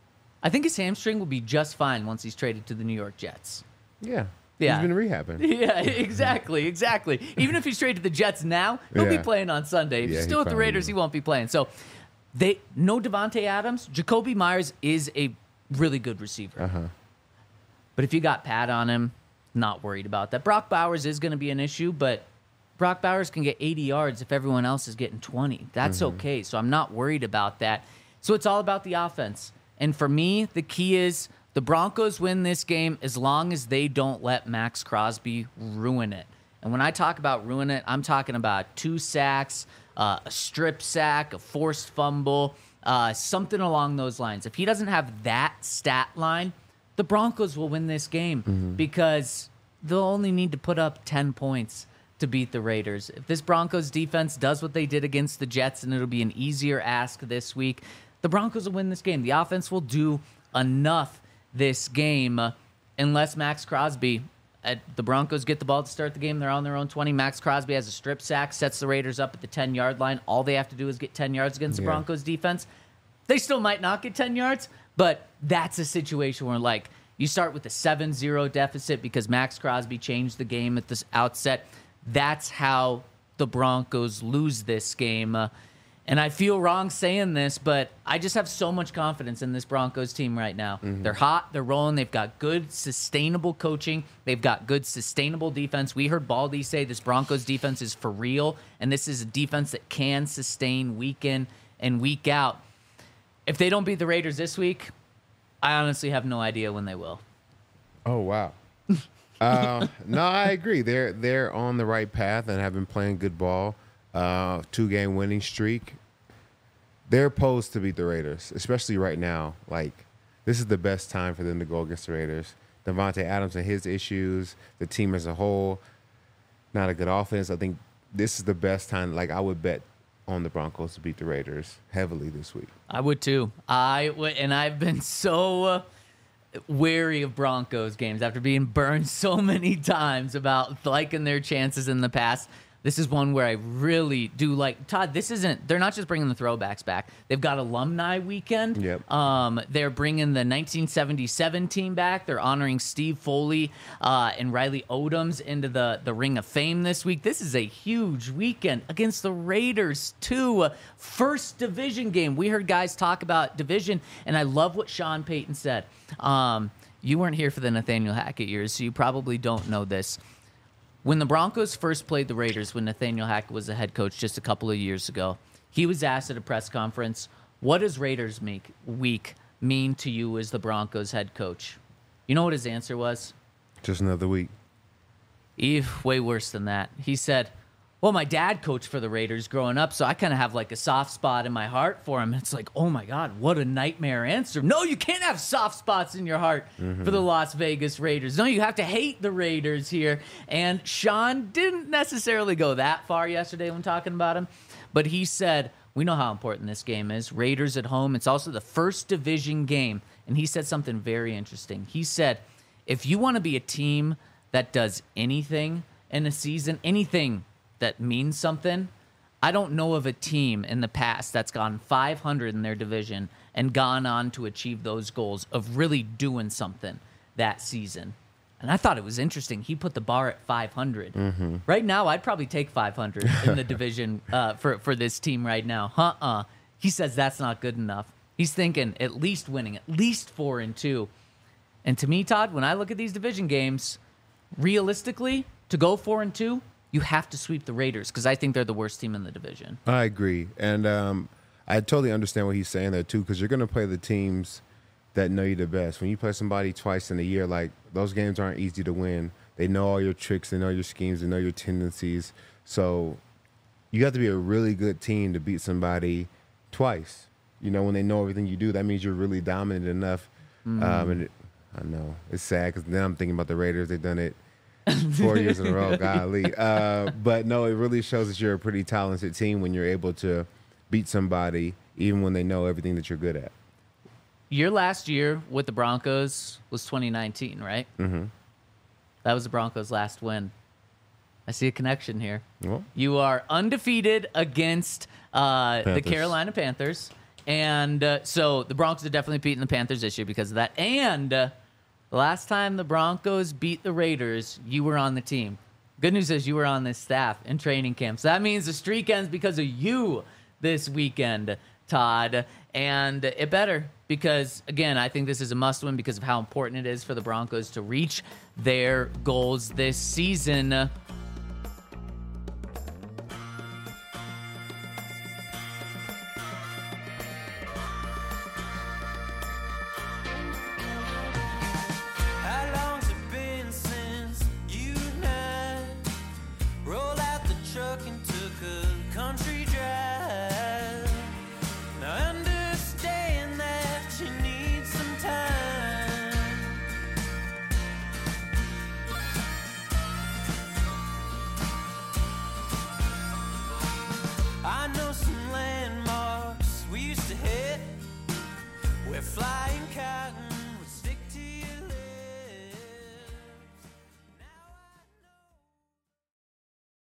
I think his hamstring will be just fine once he's traded to the New York Jets. Yeah. Yeah. He's been rehabbing. Yeah, exactly, exactly. Even if he's traded to the Jets now, he'll Yeah. be playing on Sunday. If Yeah, he's he still with the probably Raiders, will. he won't be playing. So, they no Devontae Adams. Jacoby Myers is a really good receiver. Uh-huh. But if you got Pat on him, not worried about that. Brock Bowers is going to be an issue, but Brock Bowers can get eighty yards if everyone else is getting twenty. That's Mm-hmm. okay. So I'm not worried about that. So it's all about the offense. And for me, the key is the Broncos win this game as long as they don't let Max Crosby ruin it. And when I talk about ruin it, I'm talking about two sacks, uh, a strip sack, a forced fumble, uh, something along those lines. If he doesn't have that stat line, the Broncos will win this game mm-hmm. because they'll only need to put up ten points to beat the Raiders. If this Broncos defense does what they did against the Jets, and it'll be an easier ask this week, the Broncos will win this game. The offense will do enough this game uh, unless Max Crosby, uh, the Broncos get the ball to start the game. They're on their own twenty. Max Crosby has a strip sack, sets the Raiders up at the ten-yard line. All they have to do is get ten yards against the Yeah. Broncos defense. They still might not get ten yards, but that's a situation where, like, you start with a seven zero deficit because Max Crosby changed the game at the outset. That's how the Broncos lose this game. Uh, and I feel wrong saying this, but I just have so much confidence in this Broncos team right now. Mm-hmm. They're hot. They're rolling. They've got good, sustainable coaching. They've got good, sustainable defense. We heard Baldy say this Broncos defense is for real, and this is a defense that can sustain week in and week out. If they don't beat the Raiders this week, I honestly have no idea when they will. Oh, wow. uh, no, I agree. They're they're on the right path and have been playing good ball. Uh, two-game winning streak. They're posed to beat the Raiders, especially right now. Like, this is the best time for them to go against the Raiders. Devontae Adams and his issues, the team as a whole, not a good offense. I think this is the best time. Like, I would bet on the Broncos to beat the Raiders heavily this week. I would too. I would, and I've been so uh, wary of Broncos games after being burned so many times about liking their chances in the past. This is one where I really do like. Todd, this isn't, they're not just bringing the throwbacks back. They've got alumni weekend. Yep. Um, they're bringing the nineteen seventy-seven team back. They're honoring Steve Foley uh, and Riley Odoms into the, the Ring of Fame this week. This is a huge weekend against the Raiders, too. First division game. We heard guys talk about division, and I love what Sean Payton said. Um, you weren't here for the Nathaniel Hackett years, so you probably don't know this. When the Broncos first played the Raiders, when Nathaniel Hackett was the head coach just a couple of years ago, he was asked at a press conference, what does Raiders make, week mean to you as the Broncos head coach? You know what his answer was? Just another week. Eve, way worse than that. He said, well, my dad coached for the Raiders growing up, so I kind of have like a soft spot in my heart for him. It's like, oh my God, what a nightmare answer. No, you can't have soft spots in your heart mm-hmm. for the Las Vegas Raiders. No, you have to hate the Raiders here. And Sean didn't necessarily go that far yesterday when talking about him, but he said, we know how important this game is. Raiders at home. It's also the first division game. And he said something very interesting. He said, if you want to be a team that does anything in a season, anything that means something, I don't know of a team in the past that's gone five hundred in their division and gone on to achieve those goals of really doing something that season. And I thought it was interesting. He put the bar at five hundred. Mm-hmm. Right now, I'd probably take five hundred in the division uh, for, for this team right now. Uh-uh. He says that's not good enough. He's thinking at least winning, at least four and two. And to me, Todd, when I look at these division games, realistically, to go four and two, you have to sweep the Raiders because I think they're the worst team in the division. I agree. And um, I totally understand what he's saying there, too, because you're going to play the teams that know you the best. When you play somebody twice in a year, like, those games aren't easy to win. They know all your tricks. They know your schemes. They know your tendencies. So you have to be a really good team to beat somebody twice. You know, when they know everything you do, that means you're really dominant enough. Mm. Um, and it, I know. It's sad because then I'm thinking about the Raiders. They've done it four years in a row, golly. Uh, but no, it really shows that you're a pretty talented team when you're able to beat somebody, even when they know everything that you're good at. Your last year with the Broncos was twenty nineteen, right? Mm-hmm. That was the Broncos' last win. I see a connection here. Well, you are undefeated against uh, the Carolina Panthers. And uh, so the Broncos are definitely beating the Panthers this year because of that. And uh, the last time the Broncos beat the Raiders, you were on the team. Good news is you were on this staff in training camp. So that means the streak ends because of you this weekend, Todd. And it better because, again, I think this is a must-win because of how important it is for the Broncos to reach their goals this season. We're flying cotton